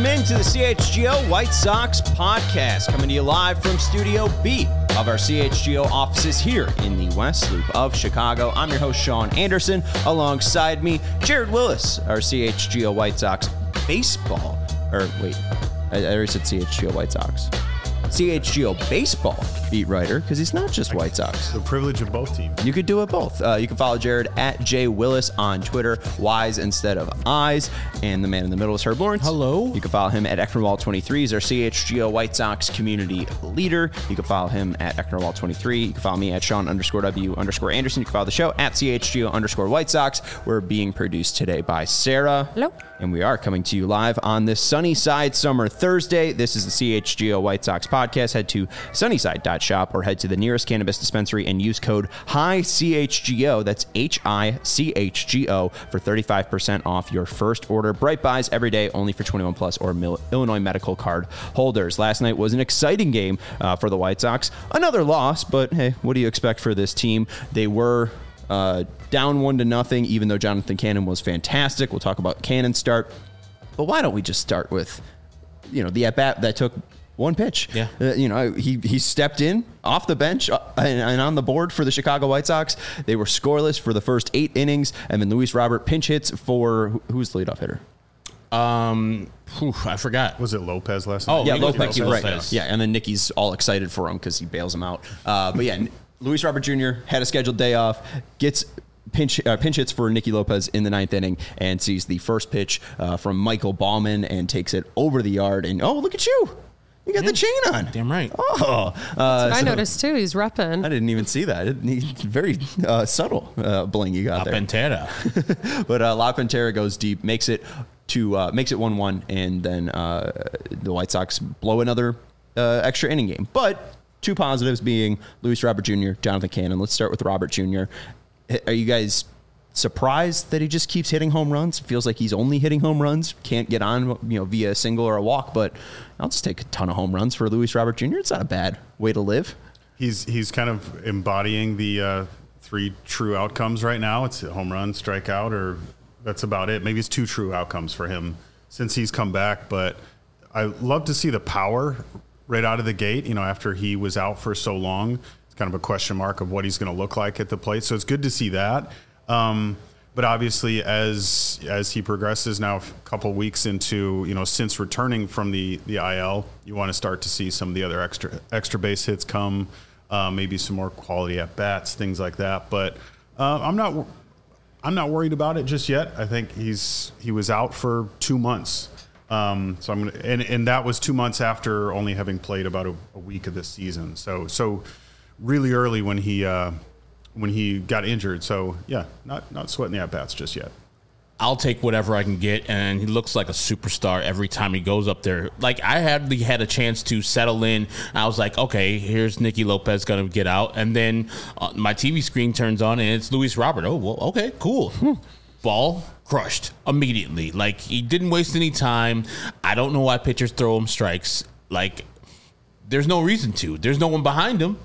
Welcome into the CHGO White Sox podcast, coming to you live from Studio B of our CHGO offices here in the West Loop of Chicago. I'm your host, Sean Anderson. Alongside me, Jared Willis, our CHGO White Sox baseball, I already said CHGO White Sox. CHGO baseball beat writer, because he's not just White Sox. The privilege of both teams. You could do it both. You can follow Jared at JWillis on Twitter, Y's instead of I's. And the man in the middle is Herb Lawrence. Hello. You can follow him at Ecknerwall23. He's our CHGO White Sox community leader. You can follow him at Ecknerwall23. You can follow me at Sean_W_Anderson. You can follow the show at CHGO_White Sox. We're being produced today by Sarah. Hello. And we are coming to you live on this Sunnyside Summer Thursday. This is the CHGO White Sox podcast. Head to sunnyside.shop or head to the nearest cannabis dispensary and use code HICHGO. That's HICHGO for 35% off your first order. Bright buys every day, only for 21 plus or Illinois medical card holders. Last night was an exciting game for the White Sox. Another loss, but hey, what do you expect for this team? They were down 1-0, even though Jonathan Cannon was fantastic. We'll talk about Cannon's start. But why don't we just start with, the at-bat that took one pitch? Yeah. He stepped in off the bench and on the board for the Chicago White Sox. They were scoreless for the first 8 innings, and then Luis Robert pinch hits for, who's the leadoff hitter? I forgot. Was it Lopez last night? Oh, yeah, Lopez. Lopez. Right. Yeah, and then Nicky's all excited for him because he bails him out. But yeah, Luis Robert Jr. had a scheduled day off, gets pinch hits for Nicky Lopez in the 9th inning, and sees the first pitch from Michael Baumann and takes it over the yard. And look at you! You got the chain on. Damn right. Oh, I noticed too. He's repping. I didn't even see that. Very subtle bling you got there. Pantera. But La Pantera goes deep, makes it 1-1, and then the White Sox blow another extra inning game. But two positives being Luis Robert Jr., Jonathan Cannon. Let's start with Robert Jr. Are you guys surprised that he just keeps hitting home runs? It feels like he's only hitting home runs. Can't get on, via a single or a walk. But I'll just take a ton of home runs for Luis Robert Jr. It's not a bad way to live. He's kind of embodying the 3 true outcomes right now. It's a home run, strikeout, or that's about it. Maybe it's 2 true outcomes for him since he's come back. But I love to see the power right out of the gate. After he was out for so long, it's kind of a question mark of what he's going to look like at the plate. So it's good to see that. But obviously, as he progresses now, a couple weeks into, since returning from the IL, you want to start to see some of the other extra base hits come, maybe some more quality at bats, things like that. But I'm not worried about it just yet. I think he was out for 2 months. So I'm gonna, and that was 2 months after only having played about a week of this season. So really early when he got injured. So yeah, not sweating the at bats just yet. I'll take whatever I can get, and he looks like a superstar every time he goes up there. Like, I had a chance to settle in. I was like, okay, here's Nicky Lopez going to get out, and then my TV screen turns on, and it's Luis Robert. Oh, well, okay, cool. Ball crushed immediately. Like, he didn't waste any time. I don't know why pitchers throw him strikes. Like, there's no reason to. There's no one behind him.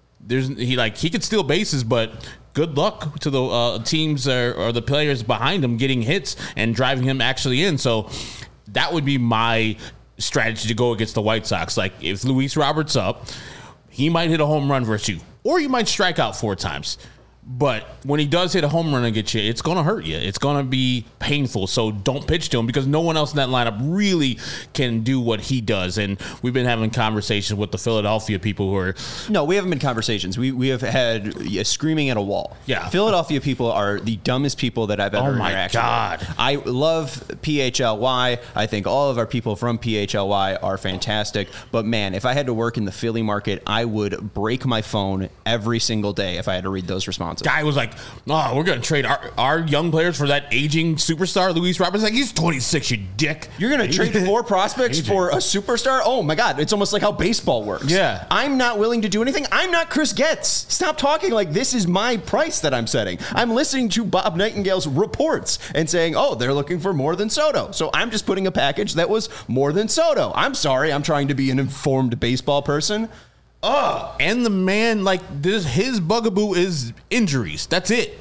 He could steal bases, but good luck to the teams or the players behind him getting hits and driving him actually in. So that would be my strategy to go against the White Sox. Like, if Luis Robert's up, he might hit a home run versus you, or you might strike out 4 times. But when he does hit a home run and get you, it's going to hurt you. It's going to be painful. So don't pitch to him, because no one else in that lineup really can do what he does. And we've been having conversations with the Philadelphia people who are... No, we haven't been conversations. We have had screaming at a wall. Yeah. Philadelphia people are the dumbest people that I've ever interacted with. God. I love PHLY. I think all of our people from PHLY are fantastic. But man, if I had to work in the Philly market, I would break my phone every single day if I had to read those responses. Guy was like, "Oh, we're going to trade our young players for that aging superstar, Luis Roberts." Like, he's 26, you dick. You're going to trade 4 prospects for a superstar? Oh my God, it's almost like how baseball works. Yeah. I'm not willing to do anything. I'm not Chris Getz. Stop talking like this is my price that I'm setting. I'm listening to Bob Nightingale's reports and saying, oh, they're looking for more than Soto. So I'm just putting a package that was more than Soto. I'm sorry. I'm trying to be an informed baseball person. And the man, his bugaboo is injuries. That's it.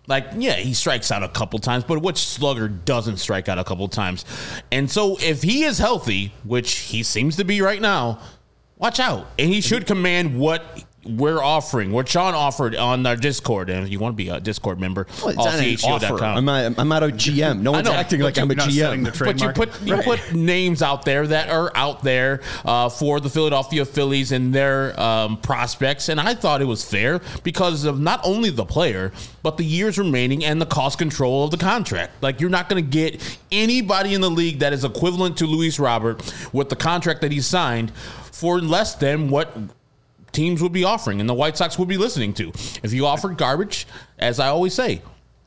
Like, yeah, he strikes out a couple times, but which slugger doesn't strike out a couple times? And so if he is healthy, which he seems to be right now, watch out. And he should command what we're offering, what Sean offered on our Discord. And if you want to be a Discord member, allchgo.com. I'm not a GM. No one's acting like I'm a GM. But you put names out there that are out there for the Philadelphia Phillies and their prospects. And I thought it was fair because of not only the player, but the years remaining and the cost control of the contract. Like, you're not going to get anybody in the league that is equivalent to Luis Robert with the contract that he signed for less than what teams would be offering and the White Sox would be listening to. If you offer garbage, as I always say,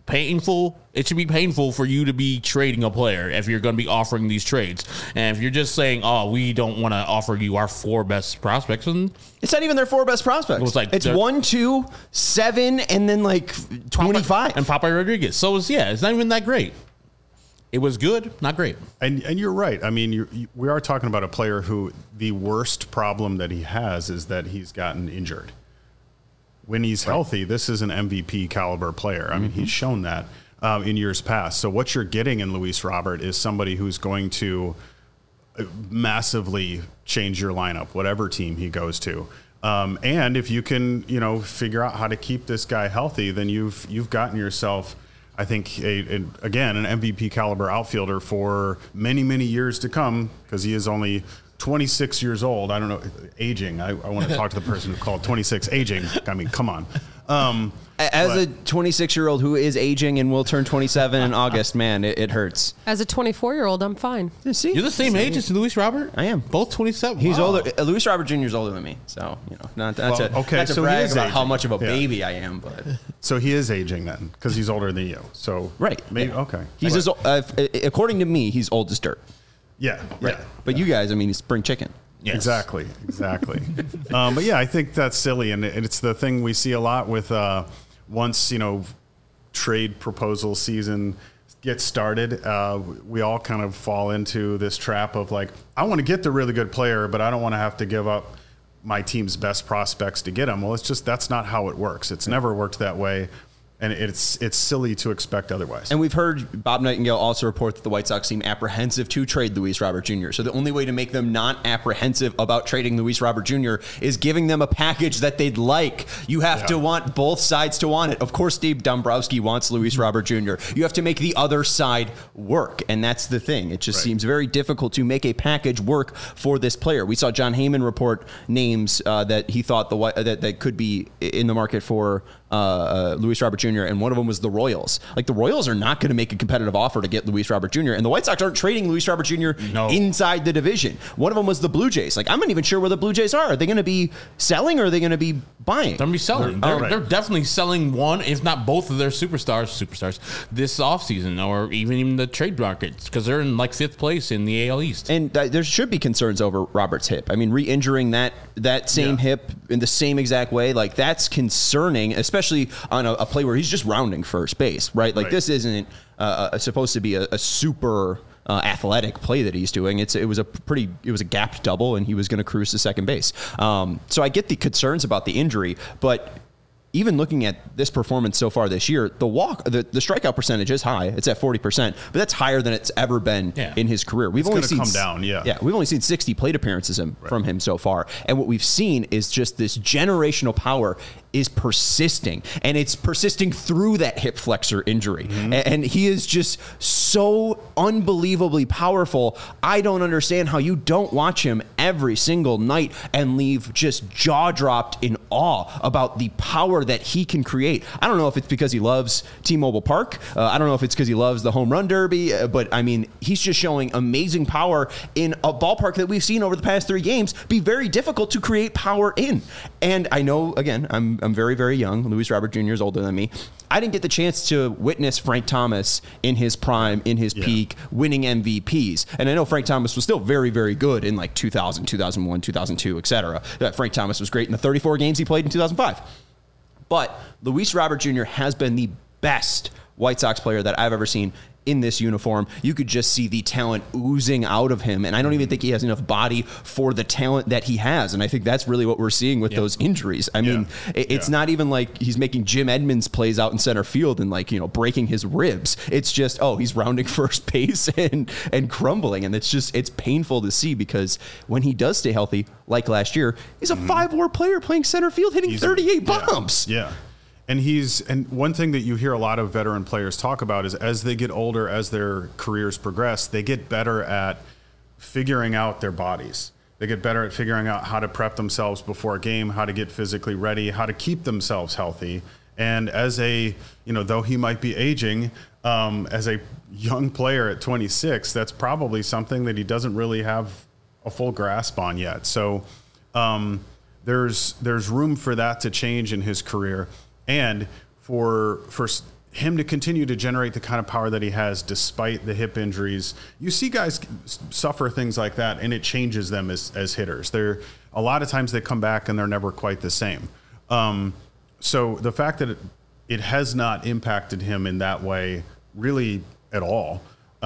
it should be painful for you to be trading a player if you're going to be offering these trades. And if you're just saying, oh, we don't want to offer you our 4 best prospects, and it's not even their 4 best prospects. It's 1, 2, 7, and then like 25. And Papa Rodriguez. So it's not even that great. It was good, not great. And you're right. I mean, we are talking about a player who the worst problem that he has is that he's gotten injured. When he's healthy, this is an MVP caliber player. I mean, he's shown that in years past. So what you're getting in Luis Robert is somebody who's going to massively change your lineup, whatever team he goes to. And if you can, figure out how to keep this guy healthy, then you've gotten yourself, I think, again, an MVP caliber outfielder for many, many years to come, because he is only 26 years old. I don't know, aging. I want to talk to the person who called 26 aging. I mean, come on. As a 26-year-old who is aging and will turn 27 in August, man, it hurts. As a 24-year-old, I'm fine. See? You're the same age as Luis Robert? I am. Both 27? He's older. Luis Robert Jr. is older than me. So, not to brag about how much of a baby I am. But so he is aging then, because he's older than you. So right. Maybe, okay. He's according to me, he's old as dirt. Yeah. But you guys, I mean, he's spring chicken. Yes. Exactly. But yeah, I think that's silly. And it's the thing we see a lot with once, trade proposal season gets started, we all kind of fall into this trap of like, I want to get the really good player, but I don't want to have to give up my team's best prospects to get him. Well, that's not how it works. It's never worked that way. And it's silly to expect otherwise. And we've heard Bob Nightingale also report that the White Sox seem apprehensive to trade Luis Robert Jr. So the only way to make them not apprehensive about trading Luis Robert Jr. is giving them a package that they'd like. You have to want both sides to want it. Of course, Steve Dombrowski wants Luis Robert Jr. You have to make the other side work. And that's the thing. It just seems very difficult to make a package work for this player. We saw John Heyman report names that he thought that could be in the market for Luis Robert Jr., and one of them was the Royals. Like, the Royals are not going to make a competitive offer to get Luis Robert Jr., and the White Sox aren't trading Luis Robert Jr. inside the division. One of them was the Blue Jays. Like, I'm not even sure where the Blue Jays are. Are they going to be selling, or are they going to be buying? They're going to be selling. They're definitely selling one, if not both of their superstars this offseason, or even the trade market, because they're in like 5th place in the AL East. And there should be concerns over Robert's hip. I mean, re-injuring that same hip in the same exact way, like, that's concerning, especially on a play where he's just rounding first base, right? Like, this isn't supposed to be a super athletic play that he's doing. It was a gapped double, and he was going to cruise to second base. So I get the concerns about the injury, but even looking at this performance so far this year, the strikeout percentage is high. It's at 40%, but that's higher than it's ever been in his career. We've only seen 60 plate appearances from him so far. And what we've seen is just this generational power is persisting, and it's persisting through that hip flexor injury. And he is just so unbelievably powerful. I don't understand how you don't watch him every single night and leave just jaw dropped in awe about the power that he can create. I don't know if it's because he loves T-Mobile Park. I don't know if it's because he loves the home run derby, but I mean, he's just showing amazing power in a ballpark that we've seen over the past 3 games be very difficult to create power in. And I know, again, I'm very, very young. Luis Robert Jr. is older than me. I didn't get the chance to witness Frank Thomas in his prime, in his peak, winning MVPs. And I know Frank Thomas was still very, very good in like 2000, 2001, 2002, etc. Frank Thomas was great in the 34 games he played in 2005. But Luis Robert Jr. has been the best White Sox player that I've ever seen in this uniform, you could just see the talent oozing out of him. And I don't even think he has enough body for the talent that he has. And I think that's really what we're seeing with those injuries. I mean, it's not even like he's making Jim Edmonds plays out in center field and like, breaking his ribs. It's just, he's rounding first base and crumbling. And it's painful to see, because when he does stay healthy, like last year, he's a 5-WAR player playing center field, hitting 38 bombs. Yeah. And one thing that you hear a lot of veteran players talk about is as they get older, as their careers progress, they get better at figuring out their bodies. They get better at figuring out how to prep themselves before a game, how to get physically ready, how to keep themselves healthy. And as though he might be aging, as a young player at 26, that's probably something that he doesn't really have a full grasp on yet. So there's room for that to change in his career. And for him to continue to generate the kind of power that he has despite the hip injuries. You see guys suffer things like that, and it changes them as hitters. A lot of times they come back and they're never quite the same. So the fact that it has not impacted him in that way really at all,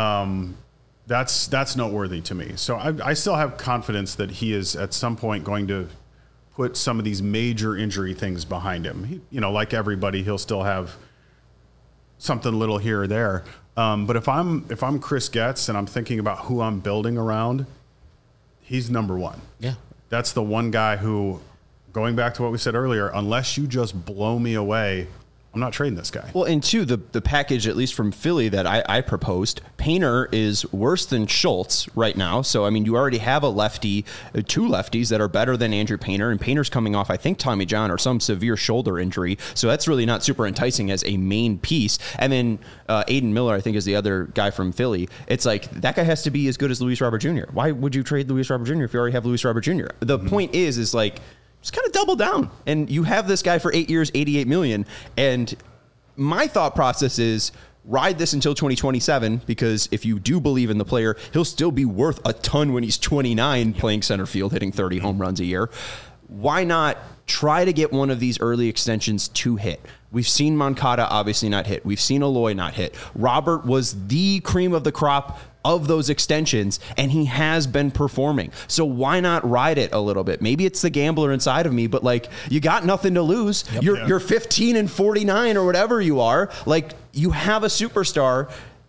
that's noteworthy to me. So I still have confidence that he is at some point going to put some of these major injury things behind him. Like everybody, he'll still have something little here or there. But if I'm Chris Getz and I'm thinking about who I'm building around, he's number one. Yeah. That's the one guy who, going back to what we said earlier, unless you just blow me away, I'm not trading this guy. Well, and two, the package, at least from Philly, that I proposed, Painter is worse than Schultz right now. So, I mean, you already have a lefty, two lefties that are better than Andrew Painter, and Painter's coming off, I think, Tommy John or some severe shoulder injury. So that's really not super enticing as a main piece. And then Aiden Miller, I think, is the other guy from Philly. It's like, that guy has to be as good as Luis Robert Jr. Why would you trade Luis Robert Jr. if you already have Luis Robert Jr.? The point is like, just kind of double down. And you have this guy for 8 years, $88 million. And my thought process is ride this until 2027, because if you do believe in the player, he'll still be worth a ton when he's 29 playing center field, hitting 30 home runs a year. Why not try to get one of these early extensions to hit? We've seen Moncada obviously not hit. We've seen Eloy not hit. Robert was the cream of the crop of those extensions, and he has been performing. So why not ride it a little bit? Maybe it's the gambler inside of me, but like, you got nothing to lose. Yep. You're 15 and 49 or whatever you are. Like, you have a superstar.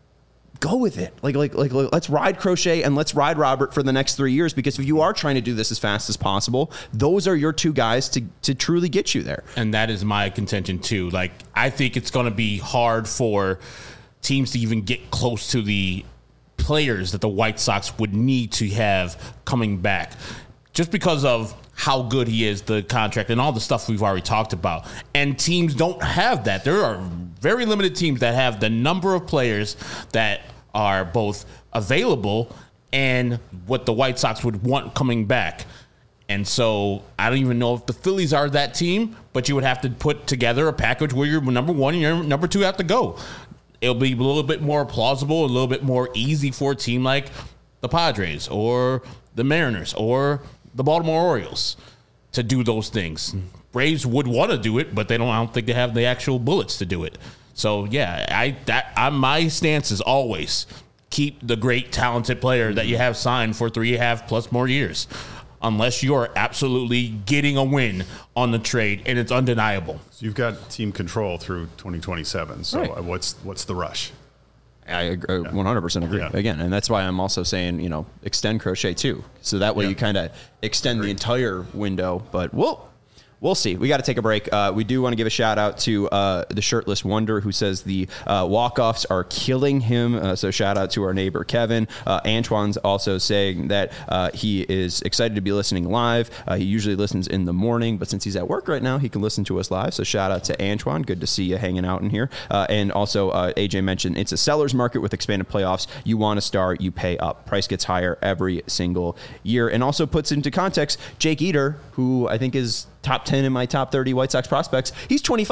Go with it. Like let's ride Crochet and let's ride Robert for the next 3 years, because if you are trying to do this as fast as possible, those are your two guys to truly get you there. And that is my contention too. Like, I think it's going to be hard for teams to even get close to the players that the White Sox would need to have coming back, just because of how good he is, the contract, and all the stuff we've already talked about. And teams don't have that. There are very limited teams that have the number of players that are both available and what the White Sox would want coming back. And so I don't even know if the Phillies are that team, but you would have to put together a package where your number one and your number two have to go. It'll be a little bit more plausible, a little bit more easy for a team like the Padres or the Mariners or the Baltimore Orioles to do those things. Braves would want to do it, but I don't think they have the actual bullets to do it. So yeah, my stance is always keep the great talented player that you have signed for 3.5+ more years, unless you are absolutely getting a win on the trade and it's undeniable. So you've got team control through 2027. So right. What's the rush? I agree, 100% agree. Yeah. Again, and that's why I'm also saying, extend Crochet too. So that way you kind of extend the entire window. But we'll see. We got to take a break. We do want to give a shout out to the Shirtless Wonder, who says the walk-offs are killing him. So shout out to our neighbor, Kevin. Antoine's also saying that he is excited to be listening live. He usually listens in the morning, but since he's at work right now, he can listen to us live. So shout out to Antoine. Good to see you hanging out in here. And also, AJ mentioned it's a seller's market with expanded playoffs. You want a star, you pay up. Price gets higher every single year. And also puts into context Jake Eder, who I think is top 10 in my top 30 White Sox prospects. He's 25.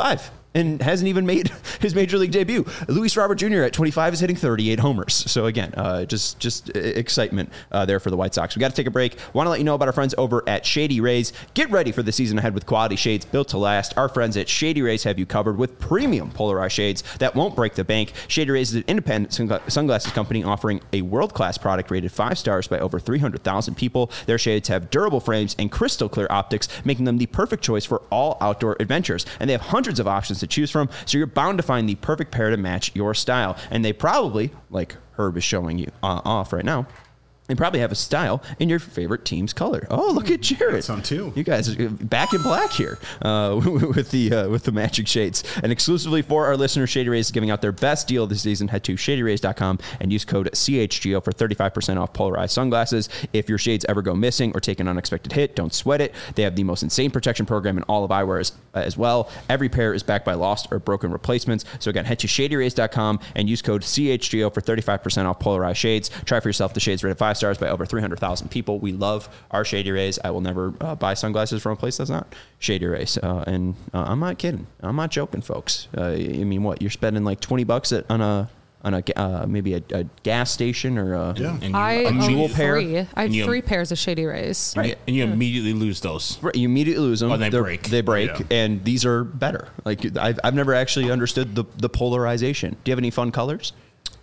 and hasn't even made his major league debut. Luis Robert Jr. at 25 is hitting 38 homers. So again, just excitement there for the White Sox. We got to take a break. Want to let you know about our friends over at Shady Rays. Get ready for the season ahead with quality shades built to last. Our friends at Shady Rays have you covered with premium polarized shades that won't break the bank. Shady Rays is an independent sunglasses company offering a world-class product rated 5 stars by over 300,000 people. Their shades have durable frames and crystal clear optics, making them the perfect choice for all outdoor adventures. And they have hundreds of options to choose from, so you're bound to find the perfect pair to match your style. And they probably, like Herb is showing you off right now, they probably have a style in your favorite team's color. Oh, look at Jared! That's on too. You guys are back in black here with the matching shades. And exclusively for our listeners, Shady Rays is giving out their best deal this season. Head to shadyrays.com and use code CHGO for 35% off polarized sunglasses. If your shades ever go missing or take an unexpected hit, don't sweat it. They have the most insane protection program in all of eyewear as well. Every pair is backed by lost or broken replacements. So again, head to shadyrays.com and use code CHGO for 35% off polarized shades. Try for yourself the shades rated 5 stars by over 300,000 people. We love our Shady Rays. I will never buy sunglasses from a place that's not Shady Rays. And I'm not kidding. I'm not joking, folks. I mean, what? You're spending like $20 on a maybe a gas station or a jewel pair. I have 3 pairs of Shady Rays. Right. And you immediately lose those. Right, you immediately lose them. Or they break. They break, Yeah. and these are better. Like I've never actually understood the polarization. Do you have any fun colors?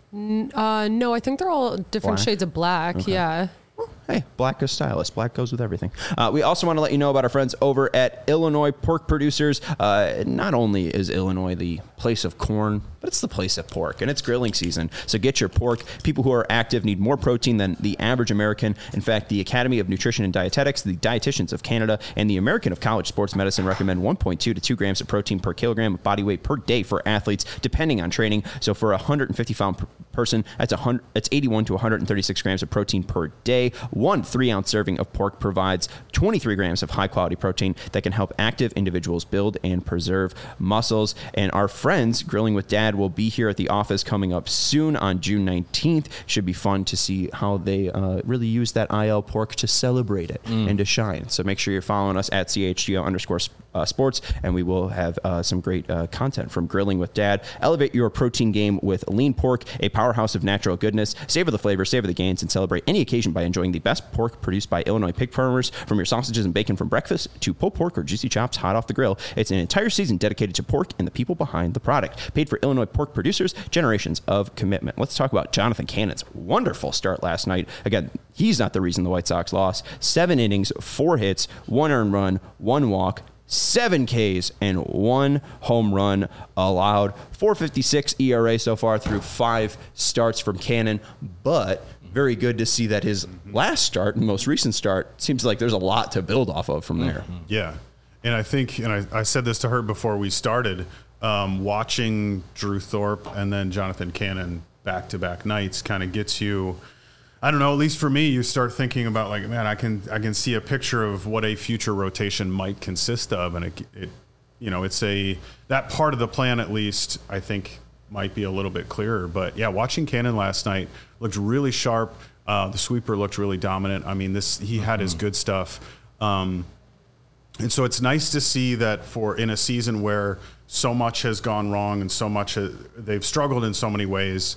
No, I think they're all different Black? shades of black. Okay. Yeah. Hey, black is stylish. Black goes with everything. We also want to let you know about our friends over at Illinois Pork Producers. Not only is Illinois the place of corn, but it's the place of pork, and it's grilling season. So get your pork. People who are active need more protein than the average American. In fact, the Academy of Nutrition and Dietetics, the Dietitians of Canada, and the American of College Sports Medicine recommend 1.2 to 2 grams of protein per kilogram of body weight per day for athletes, depending on training. So for a 150-pound person, that's 81 to 136 grams of protein per day. One 3-ounce serving of pork provides 23 grams of high-quality protein that can help active individuals build and preserve muscles. And our friends, Grilling with Dad, will be here at the office coming up soon on June 19th. Should be fun to see how they really use that IL pork to celebrate it and to shine. So make sure you're following us at CHGO_sports, and we will have some great content from Grilling with Dad. Elevate your protein game with lean pork, a powerhouse of natural goodness. Savor the flavor, savor the gains, and celebrate any occasion by enjoying the best pork produced by Illinois pig farmers. From your sausages and bacon from breakfast to pulled pork or juicy chops hot off the grill, it's an entire season dedicated to pork and the people behind the product. Paid for Illinois pork producers, generations of commitment. Let's talk about Jonathan Cannon's wonderful start last night. Again, he's not the reason the White Sox lost. 7 innings, 4 hits, 1 earned run, 1 walk, 7 Ks, and 1 home run allowed. 4.56 ERA so far through 5 starts from Cannon, but very good to see that his last start and most recent start seems like there's a lot to build off of from there. Yeah. And I think, and I said this to her before we started, watching Drew Thorpe and then Jonathan Cannon back-to-back nights kind of gets you, I don't know, at least for me, you start thinking about like, man, I can see a picture of what a future rotation might consist of. And it you know, it's that part of the plan, at least, I think might be a little bit clearer. But yeah, watching Cannon last night looked really sharp. The sweeper looked really dominant. I mean, he had his good stuff. And so it's nice to see that in a season where so much has gone wrong and so much they've struggled in so many ways,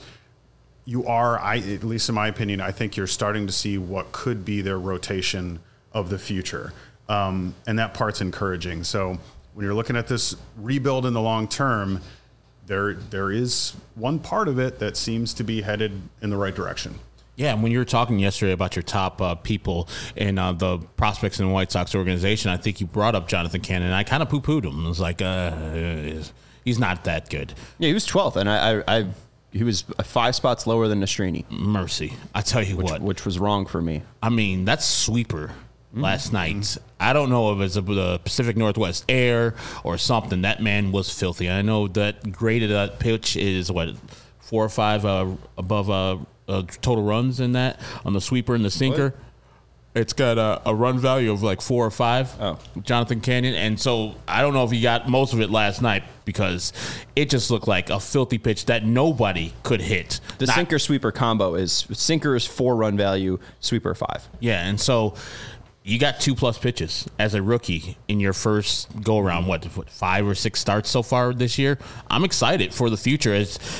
at least in my opinion, I think you're starting to see what could be their rotation of the future. And that part's encouraging. So when you're looking at this rebuild in the long term, there is one part of it that seems to be headed in the right direction. Yeah, and when you were talking yesterday about your top people in the prospects in the White Sox organization, I think you brought up Jonathan Cannon, and I kind of poo-pooed him. I was like, he's not that good. Yeah, he was 12th, and he was 5 spots lower than Nastrini. Mercy. I tell you what. Which was wrong for me. I mean, that's sweeper last night. I don't know if it's the Pacific Northwest air or something. That man was filthy. I know that graded pitch is, 4 or 5 above total runs in that on the sweeper and the sinker. What? It's got a run value of like 4 or 5. Oh. Jonathan Cannon. And so I don't know if he got most of it last night because it just looked like a filthy pitch that nobody could hit. The sinker sweeper combo is sinker is 4 run value, sweeper 5. Yeah, and so you got 2+ pitches as a rookie in your first go around. What 5 or 6 starts so far this year? I'm excited for the future.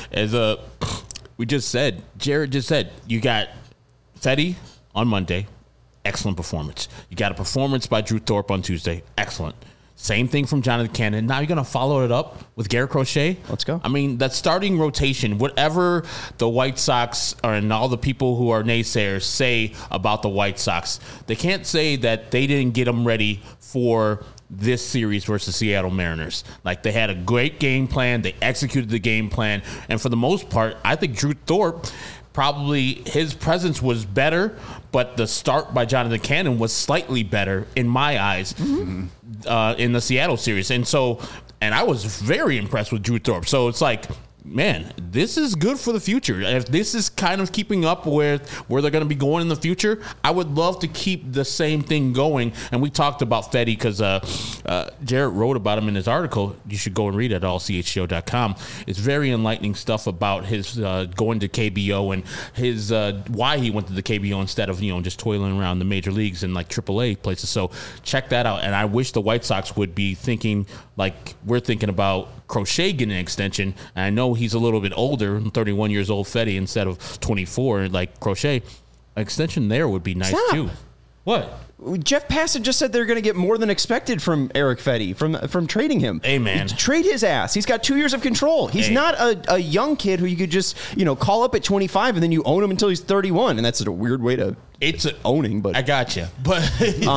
We just said, Jared just said, you got Fedde on Monday, excellent performance. You got a performance by Drew Thorpe on Tuesday, excellent. Same thing from Jonathan Cannon. Now you're going to follow it up with Garrett Crochet. Let's go. I mean, that starting rotation, whatever the White Sox and all the people who are naysayers say about the White Sox, they can't say that they didn't get them ready for this series versus Seattle Mariners. Like, they had a great game plan. They executed the game plan. And for the most part, I think Drew Thorpe, probably his presence was better, but the start by Jonathan Cannon was slightly better in my eyes in the Seattle series. And I was very impressed with Drew Thorpe. So it's like, man, this is good for the future. If this is kind of keeping up with where they're going to be going in the future, I would love to keep the same thing going. And we talked about Fedde because Jarrett wrote about him in his article. You should go and read it at allchgo.com. It's very enlightening stuff about his going to KBO and his why he went to the KBO instead of just toiling around the major leagues and like AAA places. So check that out. And I wish the White Sox would be thinking like we're thinking about Crochet getting an extension. And I know he's a little bit older, 31 years old, Fedde, instead of 24 like Crochet. An extension there would be nice too. What? Jeff Passan just said they're going to get more than expected from Erick Fedde from trading him. Hey, man. Trade his ass. He's got 2 years of control. He's not a young kid who you could just call up at 25 and then you own him until he's 31. And that's a weird way to owning. But I got you. But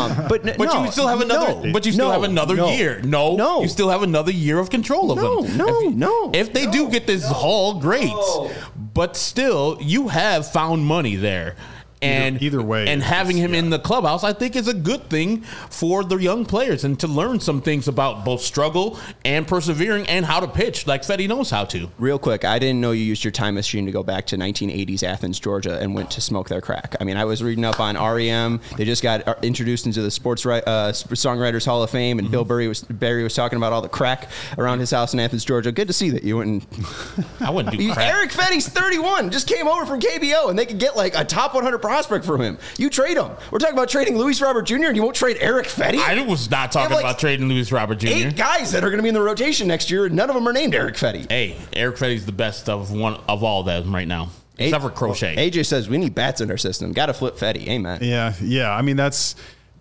you still have another. But you still have another year. No, you still have another year of control of him. If they do get this haul, great. But still, you have found money there. And either way, and having him in the clubhouse, I think is a good thing for the young players and to learn some things about both struggle and persevering and how to pitch like Fedde knows how to. Real quick, I didn't know you used your time machine to go back to 1980s Athens, Georgia, and went to smoke their crack. I mean, I was reading up on REM. They just got introduced into the Songwriters Hall of Fame, and Bill Berry was talking about all the crack around his house in Athens, Georgia. Good to see that you went and I wouldn't do crack. Erick Fedde's 31, just came over from KBO, and they could get like a top 100 prospect from him. You trade him. We're talking about trading Luis Robert Jr. and you won't trade Erick Fedde? I was not talking about trading Luis Robert Jr. 8 guys that are going to be in the rotation next year, and none of them are named Erick Fedde. Hey, Erick Fedde's the best of all of them right now. Except for Crochet. AJ says we need bats in our system. Got to flip Fedde. Amen. Yeah. I mean, that's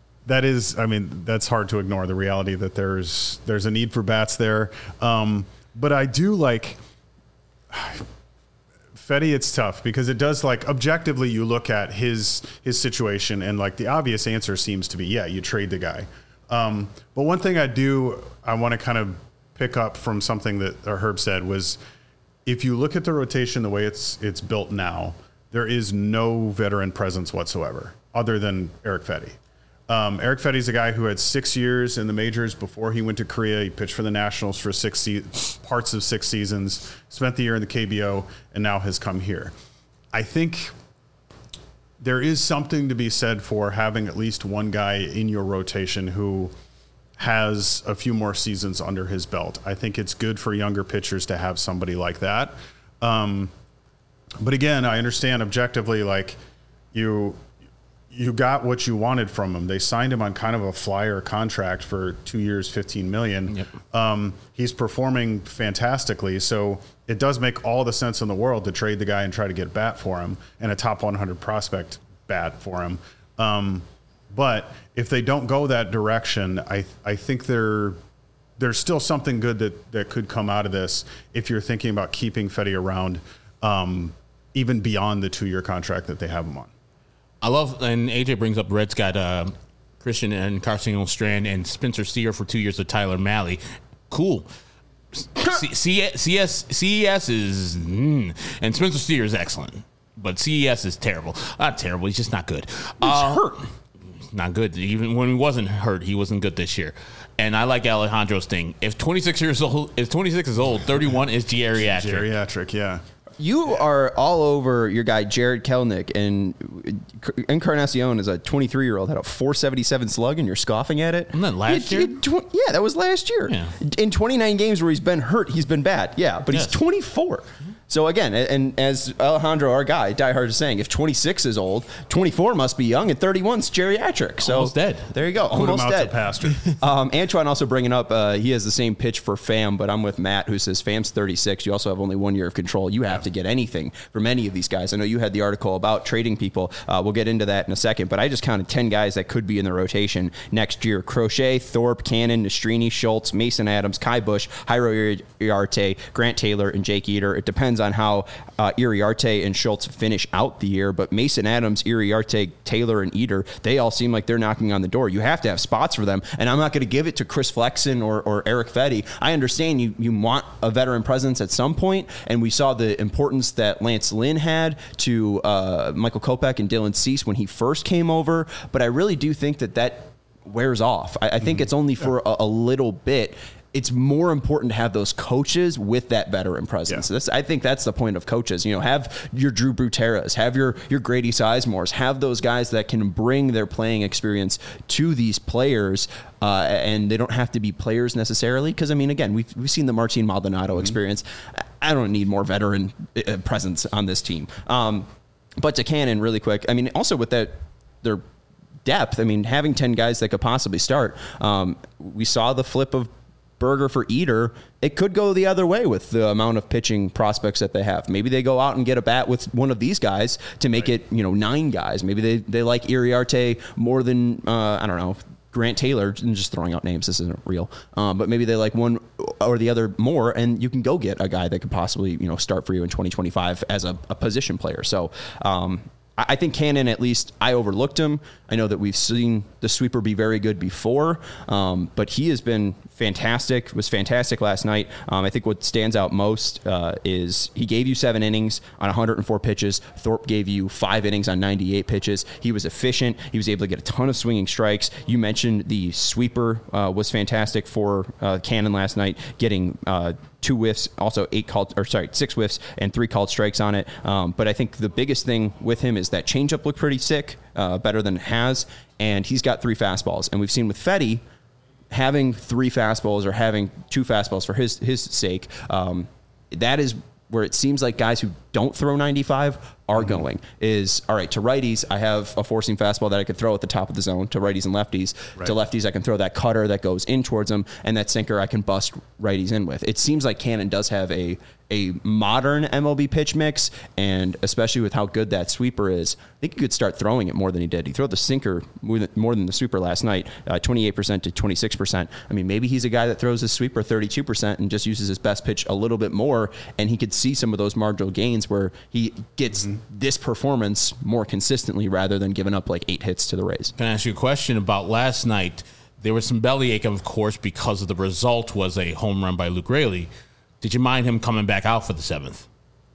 hard to ignore the reality that there's a need for bats there. But I do like Fedde. It's tough because it does, like, objectively you look at his situation and like the obvious answer seems to be, you trade the guy. But one thing I want to kind of pick up from something that Herb said was, if you look at the rotation the way it's built now, there is no veteran presence whatsoever other than Erick Fedde. Erick Fedde's a guy who had 6 years in the majors before he went to Korea. He pitched for the Nationals for parts of 6 seasons, spent the year in the KBO, and now has come here. I think there is something to be said for having at least one guy in your rotation who has a few more seasons under his belt. I think it's good for younger pitchers to have somebody like that. But again, I understand objectively, like, you got what you wanted from him. They signed him on kind of a flyer contract for 2 years, $15 million. Yep. He's performing fantastically. So it does make all the sense in the world to trade the guy and try to get bat for him and a top 100 prospect bat for him. But if they don't go that direction, I think there's still something good that could come out of this if you're thinking about keeping Fedde around, even beyond the 2-year contract that they have him on. I love, and AJ brings up Reds got Christian and Carson Strand and Spencer Steer for 2 years with Tyler Mahle. Cool. CES is, and Spencer Steer is excellent, but CES is terrible. Not terrible, he's just not good. He's hurt. Not good. Even when he wasn't hurt, he wasn't good this year. And I like Alejandro's thing. If 26 is old, 31 is geriatric. Geriatric, yeah. You are all over your guy, Jared Kelenic, and Encarnacion is a 23-year-old, had a 477 slug, and you're scoffing at it? Isn't that last year? That was last year. Yeah. In 29 games where he's been hurt, he's been bad. Yeah, but he's 24. So again, and as Alejandro, our guy, diehard, is saying, if 26 is old, 24 must be young, and 31 is geriatric. So almost dead. There you go. Put Almost him out dead. to pasture. Antoine also bringing up, he has the same pitch for Pham, but I'm with Matt, who says Pham's 36. You also have only 1 year of control. You have to get anything from any of these guys. I know you had the article about trading people. We'll get into that in a second, but I just counted 10 guys that could be in the rotation next year. Crochet, Thorpe, Cannon, Nastrini, Schultz, Mason Adams, Kai Bush, Jairo Iriarte, Grant Taylor, and Jake Eater. It depends on how Iriarte and Schultz finish out the year, but Mason Adams, Iriarte, Taylor, and Eater, they all seem like they're knocking on the door. You have to have spots for them, and I'm not going to give it to Chris Flexen or Eric Fetty. I understand you want a veteran presence at some point, and we saw the importance that Lance Lynn had to Michael Kopech and Dylan Cease when he first came over, but I really do think that wears off. I think it's only for a little bit. It's more important to have those coaches with that veteran presence. I think that's the point of coaches. Have your Drew Bruteras, have your Grady Sizemores, have those guys that can bring their playing experience to these players, and they don't have to be players necessarily. Because again, we've seen the Martin Maldonado experience. I don't need more veteran presence on this team. But to Cannon, really quick. Also with their depth. Having 10 guys that could possibly start. We saw the flip of Berger for Eater. It could go the other way with the amount of pitching prospects that they have. Maybe they go out and get a bat with one of these guys to make it 9 guys. Maybe they like Iriarte more than I don't know, Grant Taylor. I'm just throwing out names. This isn't real. But maybe they like one or the other more, and you can go get a guy that could possibly start for you in 2025 as a position player. So I think Cannon, at least, I overlooked him. I know that we've seen the sweeper be very good before, but he has been fantastic, was fantastic last night. I think what stands out most is he gave you 7 innings on 104 pitches. Thorpe gave you 5 innings on 98 pitches. He was efficient. He was able to get a ton of swinging strikes. You mentioned the sweeper was fantastic for Cannon last night, getting 2 whiffs, also 6 whiffs and 3 called strikes on it. But I think the biggest thing with him is that changeup looked pretty sick, better than it has, and he's got 3 fastballs. And we've seen with Fetty having 3 fastballs or having 2 fastballs for his sake. That is where it seems like guys who don't throw 95 are going is, all right, to righties, I have a four-seam fastball that I could throw at the top of the zone to righties and lefties. Right. To lefties, I can throw that cutter that goes in towards them, and that sinker I can bust righties in with. It seems like Cannon does have a modern MLB pitch mix, and especially with how good that sweeper is, I think he could start throwing it more than he did. He threw the sinker more than the sweeper last night, 28% to 26%. Maybe he's a guy that throws his sweeper 32% and just uses his best pitch a little bit more, and he could see some of those marginal gains where he gets this performance more consistently rather than giving up like 8 hits to the Rays. Can I ask you a question about last night? There was some bellyache, of course, because of the result was a home run by Luke Raley. Did you mind him coming back out for the 7th?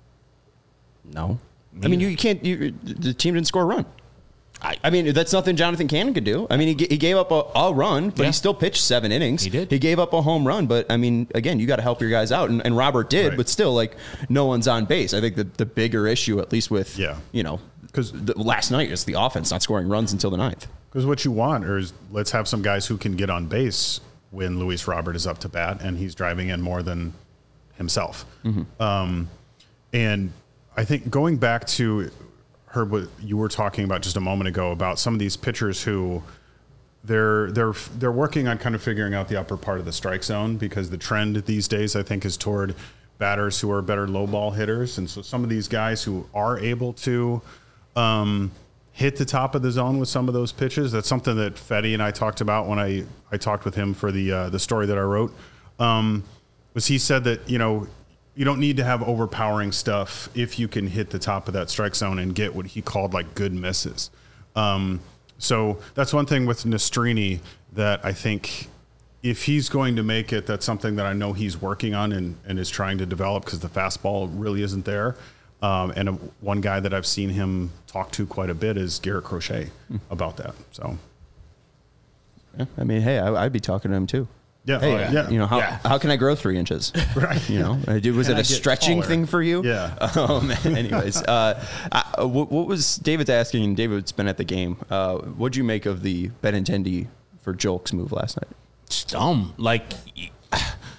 No. You can't. The team didn't score a run. That's nothing Jonathan Cannon could do. He gave up a run, but he still pitched 7 innings. He did. He gave up a home run, but again, you got to help your guys out, and Robert did, but still, no one's on base. I think the bigger issue, at least with because last night is the offense not scoring runs until the 9th. Because what you want is let's have some guys who can get on base when Luis Robert is up to bat and he's driving in more than himself. And I think going back to Herb, what you were talking about just a moment ago about some of these pitchers who they're working on kind of figuring out the upper part of the strike zone, because the trend these days, I think, is toward batters who are better low ball hitters. And so some of these guys who are able to hit the top of the zone with some of those pitches, that's something that Fetty and I talked about when I talked with him for the story that I wrote. Was he said that, you don't need to have overpowering stuff if you can hit the top of that strike zone and get what he called good misses. So that's one thing with Nastrini that I think if he's going to make it, that's something that I know he's working on and is trying to develop, because the fastball really isn't there. One guy that I've seen him talk to quite a bit is Garrett Crochet about that. So, yeah, hey, I'd be talking to him too. Yeah. Hey, how can I grow 3 inches? Right. Was it a stretching thing for you? Yeah. Anyways, what was David's asking? And David's been at the game. What'd you make of the Benintendi for Jolk's move last night? It's dumb.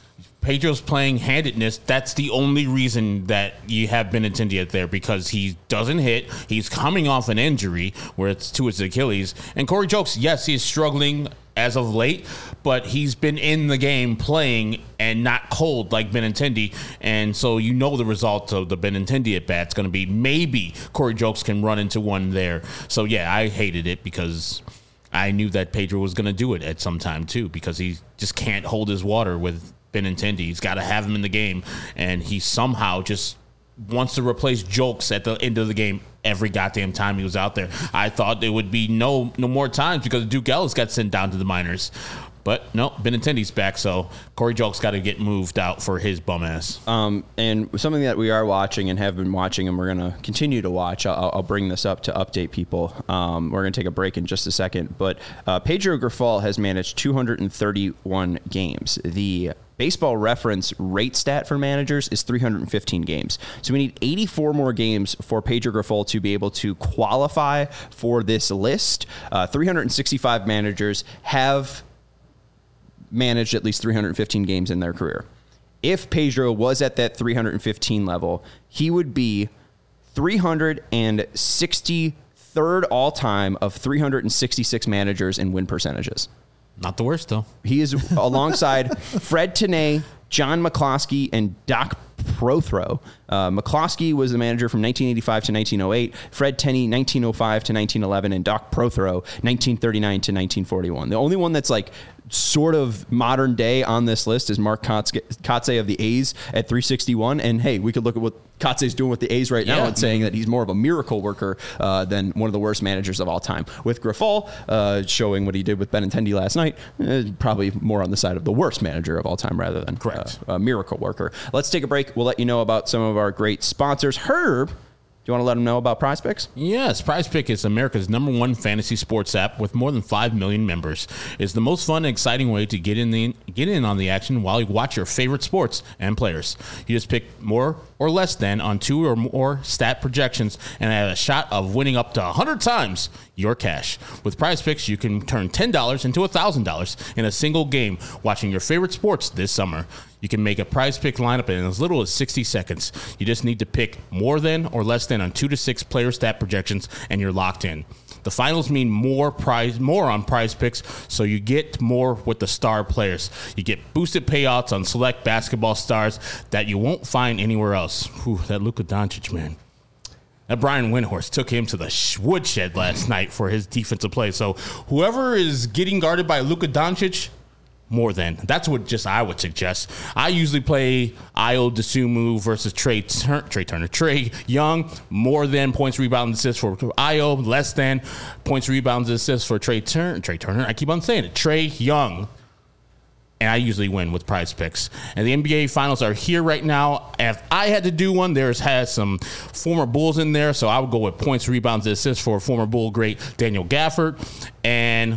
Pedro's playing handedness, that's the only reason that you have Benintendi there, because he doesn't hit. He's coming off an injury where it's to his Achilles. And Corey Jokes, yes, he's struggling as of late, but he's been in the game playing and not cold like Benintendi. And so you know the result of the Benintendi at bat's going to be maybe Corey Jokes can run into one there. So, yeah, I hated it because I knew that Pedro was going to do it at some time, too, because he just can't hold his water with Benintendi. He's got to have him in the game, and he somehow just wants to replace Jokes at the end of the game every goddamn time he was out there. I thought there would be no more times because Duke Ellis got sent down to the minors. But no, Benintendi's back, so Corey Jokes got to get moved out for his bum ass. And something that we are watching and have been watching, and we're going to continue to watch, I'll bring this up to update people. We're going to take a break in just a second. But Pedro Grifol has managed 231 games. The Baseball Reference rate stat for managers is 315 games. So we need 84 more games for Pedro Grifol to be able to qualify for this list. 365 managers have managed at least 315 games in their career. If Pedro was at that 315 level, he would be 363rd all-time of 366 managers in win percentages. Not the worst, though. He is alongside Fred Tenay, John McCloskey, and Doc Prothro. McCloskey was the manager from 1985 to 1908, Fred Tenney 1905 to 1911, and Doc Prothro 1939 to 1941. The only one that's like sort of modern day on this list is Mark Kotsay of the A's at 361. And hey, we could look at what Kotsay's doing with the A's right now and saying that he's more of a miracle worker than one of the worst managers of all time. With Grifol showing what he did with Benintendi last night, probably more on the side of the worst manager of all time rather than a miracle worker. Let's take a break. We'll let you know about some of our great sponsors. Herb, do you want to let them know about Prize Picks? Yes, Prize Pick is America's #1 fantasy sports app with more than 5 million members. It's the most fun and exciting way to get in on the action while you watch your favorite sports and players. You just pick more or less than on 2 or more stat projections and have a shot of winning up to 100 times your cash. With Prize Picks, you can turn $10 into $1,000 in a single game watching your favorite sports this summer. You can make a Prize Pick lineup in as little as 60 seconds. You just need to pick more than or less than on 2 to 6 player stat projections, and you're locked in. The finals mean more on Prize Picks, so you get more with the star players. You get boosted payouts on select basketball stars that you won't find anywhere else. Whew, that Luka Doncic, man. That Brian Windhorst took him to the woodshed last night for his defensive play. So whoever is getting guarded by Luka Doncic, more than. That's what just I would suggest. I usually play Ayo Dosunmu versus Trey Young. More than points, rebounds, assists for Ayo. Less than points, rebounds, assists for Trey Turner. I keep on saying it. Trey Young. And I usually win with Prize Picks. And the NBA Finals are here right now. If I had to do one, has some former Bulls in there. So I would go with points, rebounds, assists for former Bull great Daniel Gafford. And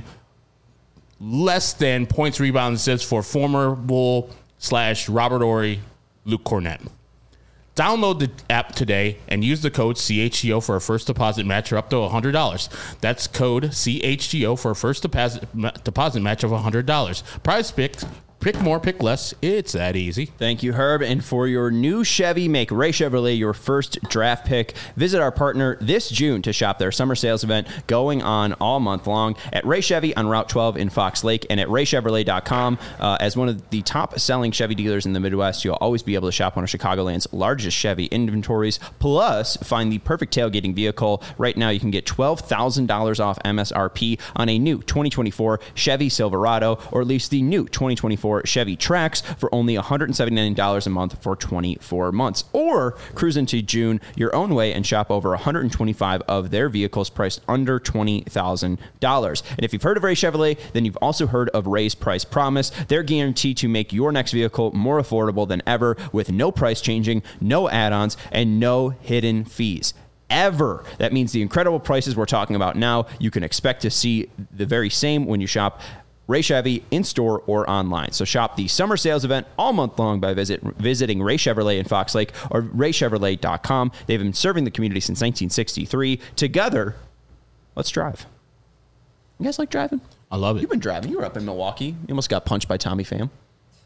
less than points, rebounds, assists for former Bull / Robert Horry, Luke Cornett. Download the app today and use the code CHGO for a first deposit match of up to $100. That's code CHGO for a first deposit match of $100. Prize Picks. Pick more, pick less. It's that easy. Thank you, Herb. And for your new Chevy, make Ray Chevrolet your first draft pick. Visit our partner this June to shop their summer sales event going on all month long at Ray Chevy on Route 12 in Fox Lake and at raychevrolet.com. As one of the top-selling Chevy dealers in the Midwest, you'll always be able to shop one of Chicagoland's largest Chevy inventories, plus find the perfect tailgating vehicle. Right now, you can get $12,000 off MSRP on a new 2024 Chevy Silverado or at least the new 2024 Chevy Trax for only $179 a month for 24 months. Or cruise into June your own way and shop over 125 of their vehicles priced under $20,000. And if you've heard of Ray Chevrolet, then you've also heard of Ray's Price Promise. They're guaranteed to make your next vehicle more affordable than ever with no price changing, no add-ons, and no hidden fees. Ever. That means the incredible prices we're talking about now, you can expect to see the very same when you shop Ray Chevy in-store or online. So shop the summer sales event all month long by visiting Ray Chevrolet in Fox Lake or raychevrolet.com. They've been serving the community since 1963. Together, let's drive. You guys like driving? I love it. You've been driving. You were up in Milwaukee. You almost got punched by Tommy Pham.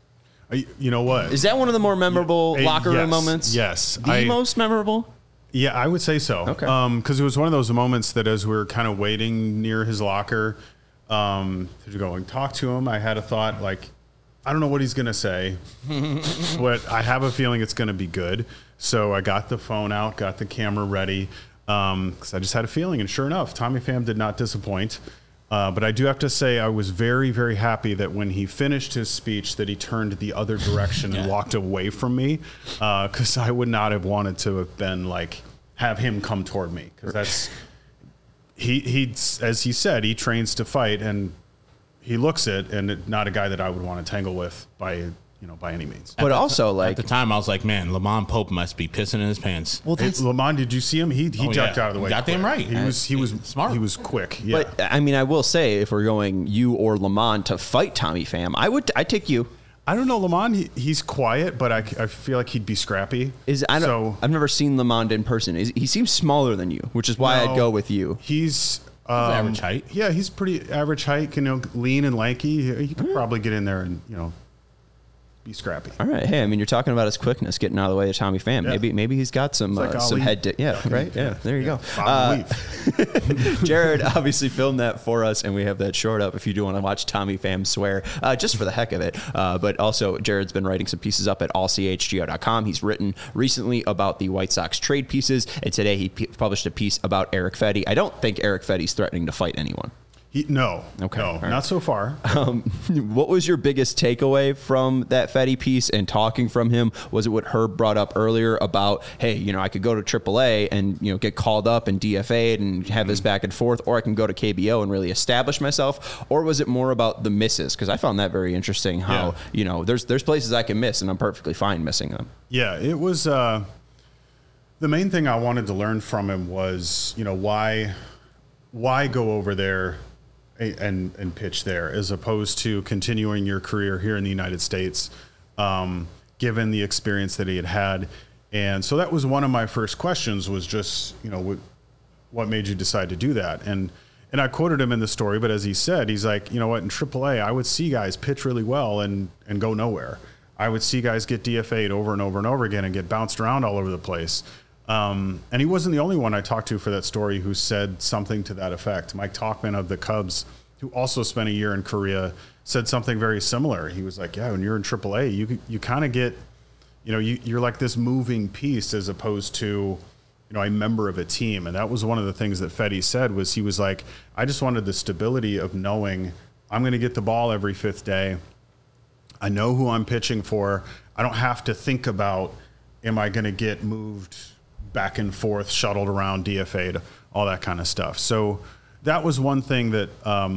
You know what? Is that one of the more memorable locker room moments? Yes. The most memorable? Yeah, I would say so. Okay. Because it was one of those moments that as we were kind of waiting near his locker to go and talk to him, I had a thought like, I don't know what he's going to say, but I have a feeling it's going to be good. So I got the phone out, got the camera ready, because I just had a feeling. And sure enough, Tommy Pham did not disappoint. But I do have to say I was very, very happy that when he finished his speech that he turned the other direction and walked away from me, because I would not have wanted to have been like, have him come toward me. Because that's, he, as he said, he trains to fight, and he looks it, and not a guy that I would want to tangle with by any means. But also, like, at the time, I was like, man, Lamont Pope must be pissing in his pants. well, that's, Lamont, did you see him? He ducked out of the way. Got them right. He was smart. He was quick. Yeah. but I mean, I will say, if we're going you or Lamont to fight Tommy Pham, I'd take you. I don't know, Lamont. He's quiet, but I feel like he'd be scrappy. I've never seen Lamont in person. He seems smaller than you, which is why I'd go with you. He's average height. Yeah, he's pretty average height. Lean and lanky. He could probably get in there and be scrappy. All right. Hey, I mean, you're talking about his quickness, getting out of the way of Tommy Pham. Yeah. Maybe he's got some Like some Ali. head. Right. Yeah. There you go. Bob Leaf. Jared obviously filmed that for us, and we have that short up if you do want to watch Tommy Pham swear, just for the heck of it. But also, Jared's been writing some pieces up at allchgo.com. He's written recently about the White Sox trade pieces, and today he published a piece about Erick Fedde. I don't think Erick Fedde's threatening to fight anyone. No. Okay. No, All right. not so far. What was your biggest takeaway from that Fedde piece and talking from him? Was it what Herb brought up earlier about, hey, I could go to AAA and, get called up and DFA'd and have this back and forth, or I can go to KBO and really establish myself? Or was it more about the misses? Because I found that very interesting how, there's places I can miss and I'm perfectly fine missing them. Yeah, it was the main thing I wanted to learn from him was, why go over there and pitch there as opposed to continuing your career here in the United States, given the experience that he had. And so that was one of my first questions was just, what made you decide to do that? And I quoted him in the story, but as he said, he's like, you know what, in AAA, I would see guys pitch really well and go nowhere. I would see guys get DFA'd over and over and over again and get bounced around all over the place. And he wasn't the only one I talked to for that story who said something to that effect. Mike Tauchman of the Cubs, who also spent a year in Korea, said something very similar. He was like, yeah, when you're in AAA, you kind of get, you're like this moving piece as opposed to, a member of a team. And that was one of the things that Fedde said was he was like, I just wanted the stability of knowing I'm going to get the ball every fifth day. I know who I'm pitching for. I don't have to think about, am I going to get moved back and forth, shuttled around, DFA'd, all that kind of stuff. So that was one thing that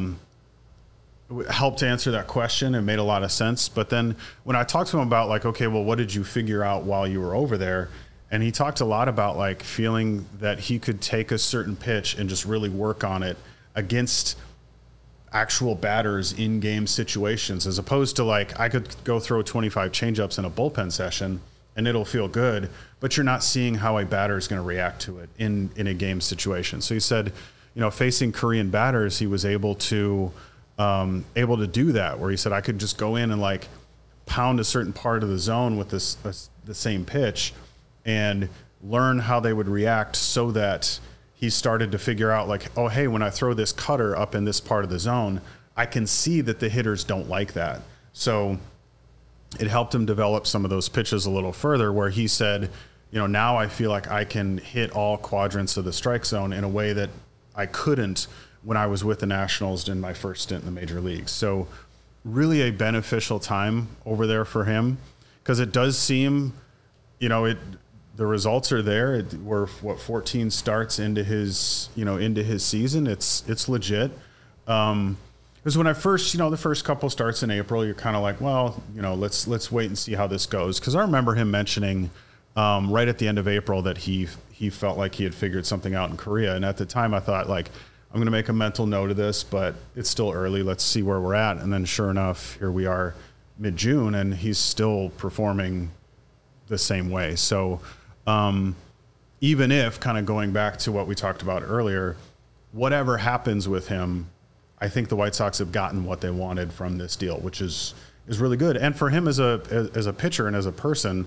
helped answer that question and made a lot of sense. But then when I talked to him about like, okay, well, what did you figure out while you were over there? And he talked a lot about like feeling that he could take a certain pitch and just really work on it against actual batters in game situations, as opposed to like, I could go throw 25 changeups in a bullpen session and it'll feel good, but you're not seeing how a batter is going to react to it in a game situation. So he said, facing Korean batters, he was able to do that, where he said, I could just go in and like pound a certain part of the zone with the same pitch and learn how they would react, so that he started to figure out like, oh, hey, when I throw this cutter up in this part of the zone, I can see that the hitters don't like that. So it helped him develop some of those pitches a little further, where he said, now I feel like I can hit all quadrants of the strike zone in a way that I couldn't when I was with the Nationals in my first stint in the major leagues. So really a beneficial time over there for him, because it does seem, the results are there. We're 14 starts into his season. It's legit. Because when I first, the first couple starts in April, you're kind of like, well, let's wait and see how this goes. Because I remember him mentioning right at the end of April that he felt like he had figured something out in Korea. And at the time I thought like, I'm going to make a mental note of this, but it's still early. Let's see where we're at. And then sure enough, here we are mid-June and he's still performing the same way. So even if, kind of going back to what we talked about earlier, whatever happens with him, I think the White Sox have gotten what they wanted from this deal, which is, is really good. And for him as a pitcher and as a person,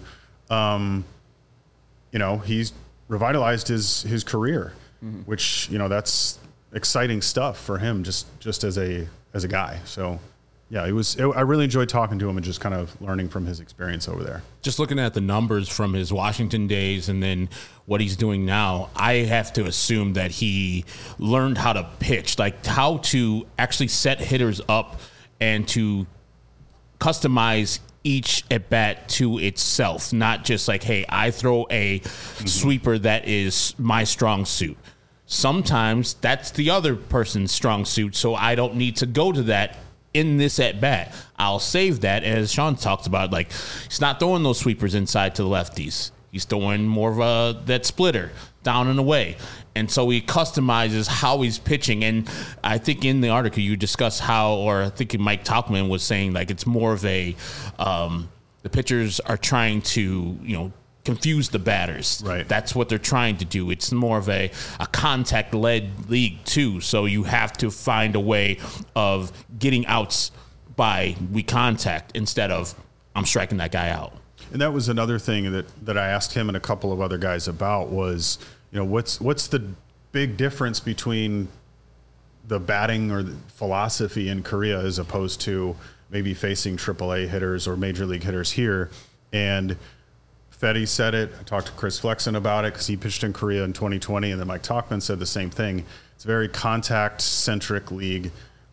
he's revitalized his career, which, that's exciting stuff for him just as a guy. So yeah, I really enjoyed talking to him and just kind of learning from his experience over there. Just looking at the numbers from his Washington days and then what he's doing now, I have to assume that he learned how to pitch, like how to actually set hitters up and to customize each at bat to itself, not just like, hey, I throw a sweeper that is my strong suit. Sometimes that's the other person's strong suit, so I don't need to go to that in this at bat. I'll save that, as Sean talked about. Like, he's not throwing those sweepers inside to the lefties. He's throwing more of that splitter down and away. And so he customizes how he's pitching. And I think in the article you discuss how, or I think Mike Tauchman was saying, like, it's more of the pitchers are trying to, confuse the batters. Right. That's what they're trying to do. It's more of a contact-led league, too. So you have to find a way of getting outs by we contact instead of I'm striking that guy out. And that was another thing that I asked him and a couple of other guys about was, what's the big difference between the batting or the philosophy in Korea as opposed to maybe facing AAA hitters or major league hitters here? And Fedde said it. I talked to Chris Flexen about it because he pitched in Korea in 2020, and then Mike Tauchman said the same thing. It's a very contact-centric league.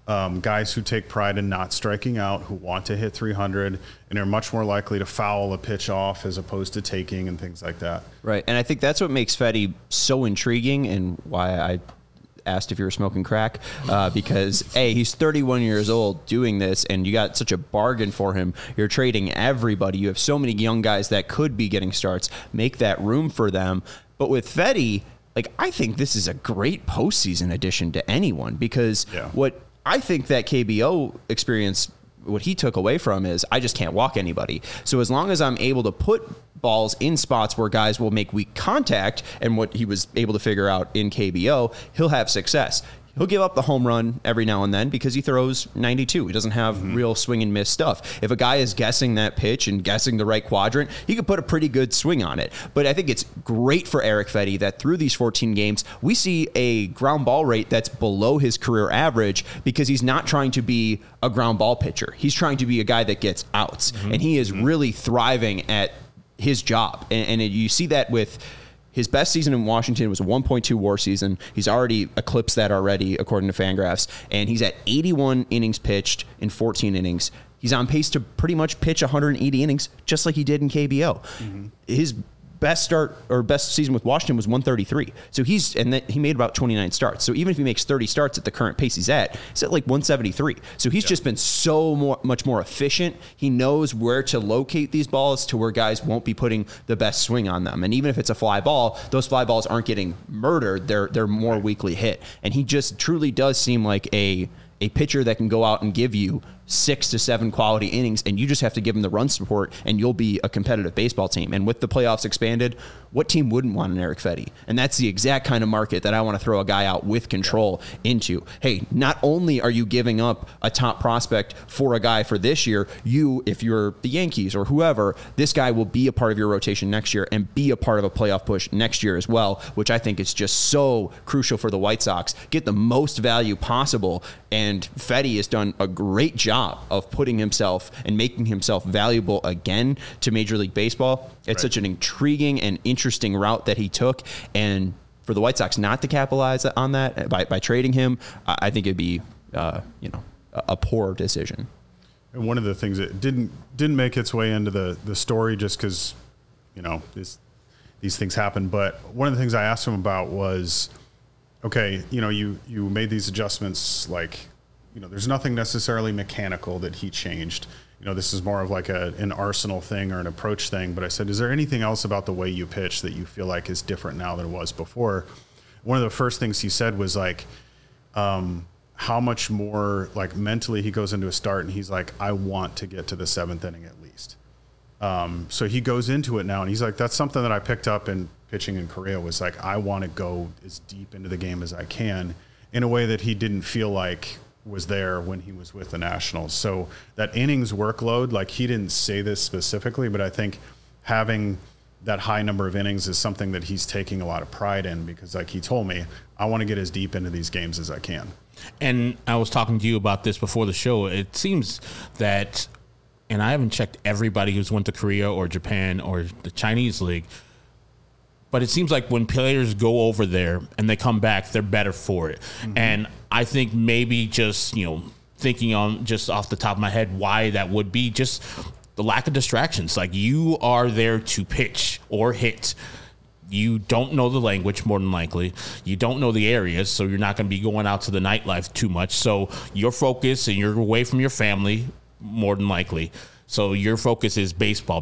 Guys who take pride in not striking out, who want to hit 300, and are much more likely to foul a pitch off as opposed to taking and things like that. Right, and I think that's what makes Fedde so intriguing and why I asked if you were smoking crack, because he's 31 years old doing this, and you got such a bargain for him. You're trading everybody. You have so many young guys that could be getting starts. Make that room for them. But with Fedde, I think this is a great postseason addition to anyone, because what I think that KBO experience, what he took away from is I just can't walk anybody. So as long as I'm able to put balls in spots where guys will make weak contact, and what he was able to figure out in KBO, he'll have success. He'll give up the home run every now and then because he throws 92. He doesn't have real swing and miss stuff. If a guy is guessing that pitch and guessing the right quadrant, he could put a pretty good swing on it. But I think it's great for Erick Fedde that through these 14 games, we see a ground ball rate that's below his career average because he's not trying to be a ground ball pitcher. He's trying to be a guy that gets outs. And he is really thriving at his job. And you see that with his best season in Washington was a 1.2 WAR season. He's already eclipsed that already, according to Fangraphs. And he's at 81 innings pitched in 14 innings. He's on pace to pretty much pitch 180 innings, just like he did in KBO. His best start or best season with Washington was 133. So he made about 29 starts. So even if he makes 30 starts at the current pace he's at 173. So he's just been so much more efficient. He knows where to locate these balls to where guys won't be putting the best swing on them. And even if it's a fly ball, those fly balls aren't getting murdered. They're more weakly hit. And he just truly does seem like a pitcher that can go out and give you 6 to 7 quality innings, and you just have to give him the run support, and you'll be a competitive baseball team. And with the playoffs expanded, what team wouldn't want an Erick Fedde? And that's the exact kind of market that I want to throw a guy out with control into. Hey, not only are you giving up a top prospect for a guy for this year, if you're the Yankees or whoever, this guy will be a part of your rotation next year and be a part of a playoff push next year as well, which I think is just so crucial for the White Sox. Get the most value possible, and Fedde has done a great job of putting himself and making himself valuable again to Major League Baseball. It's such an intriguing and interesting route that he took, and for the White Sox not to capitalize on that by trading him, I think it'd be a poor decision. And one of the things that didn't make its way into the story just because these things happen, but one of the things I asked him about was, okay, you made these adjustments, there's nothing necessarily mechanical that he changed. This is more of like an arsenal thing or an approach thing. But I said, is there anything else about the way you pitch that you feel like is different now than it was before? One of the first things he said was how much more mentally he goes into a start and he's like, I want to get to the 7th inning at least. So he goes into it now and he's like, that's something that I picked up in pitching in Korea was I want to go as deep into the game as I can in a way that he didn't feel like was there when he was with the Nationals. So that innings workload, like he didn't say this specifically, but I think having that high number of innings is something that he's taking a lot of pride in, because like he told me, I want to get as deep into these games as I can. And I was talking to you about this before the show. It seems that, and I haven't checked everybody who's went to Korea or Japan or the Chinese league, but it seems like when players go over there and they come back, they're better for it. Mm-hmm. And I think maybe just, thinking on just off the top of my head why that would be, just the lack of distractions. Like, you are there to pitch or hit. You don't know the language, more than likely. You don't know the areas, so you're not going to be going out to the nightlife too much. So your focus, and you're away from your family, more than likely. So your focus is baseball.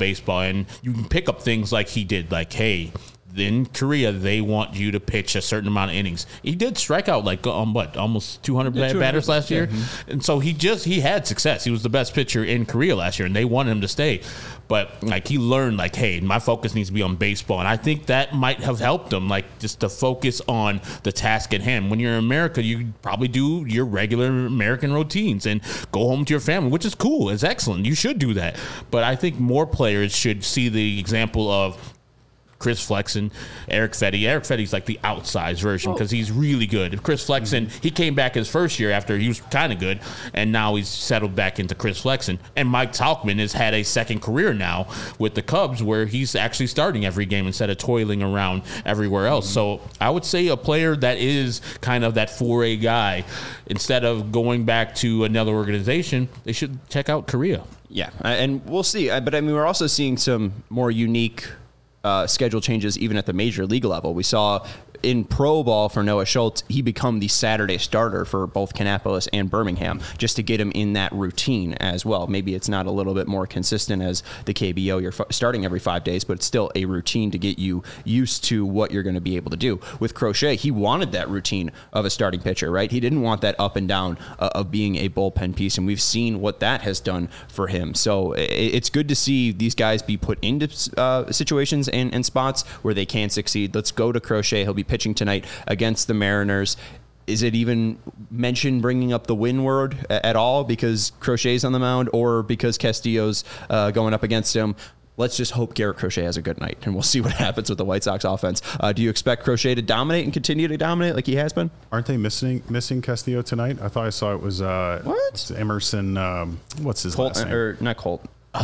And you can pick up things like he did, like, hey, in Korea, they want you to pitch a certain amount of innings. He did strike out like almost 200 batters last year. Mm-hmm. And so he had success. He was the best pitcher in Korea last year, and they wanted him to stay. But like, he learned, like, hey, my focus needs to be on baseball. And I think that might have helped him, like, just to focus on the task at hand. When you're in America, you probably do your regular American routines and go home to your family, which is cool. It's excellent. You should do that. But I think more players should see the example of Chris Flexen, Eric Fetty. Eric Fetty's like the outsized version because he's really good. Chris Flexen, he came back his first year after he was kind of good, and now he's settled back into Chris Flexen. And Mike Tauchman has had a second career now with the Cubs, where he's actually starting every game instead of toiling around everywhere else. So I would say a player that is kind of that 4A guy, instead of going back to another organization, they should check out Korea. Yeah, and we'll see. But I mean, we're also seeing some more unique schedule changes even at the major league level. We saw in pro ball for Noah Schultz, he become the Saturday starter for both Kannapolis and Birmingham, just to get him in that routine as well. Maybe it's not a little bit more consistent as the KBO. You're starting every 5 days, but it's still a routine to get you used to what you're going to be able to do. With Crochet, he wanted that routine of a starting pitcher, right? He didn't want that up and down of being a bullpen piece, and we've seen what that has done for him. So it's good to see these guys be put into situations and spots where they can succeed. Let's go to Crochet. He'll be pitching tonight against the Mariners. Is it even mentioned bringing up the win word at all because Crochet's on the mound, or because Castillo's going up against him? Let's just hope Garrett Crochet has a good night, and we'll see what happens with the White Sox offense. Do you expect Crochet to dominate and continue to dominate like he has been? Aren't they missing Castillo tonight? I thought I saw it was Emerson. What's his last name? Or not Colt.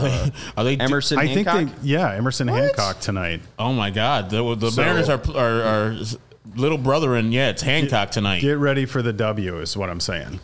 Are they Emerson Hancock? I think Emerson Hancock tonight. Oh my God, the Mariners are little brother, and it's Hancock tonight. Get ready for the W is what I'm saying.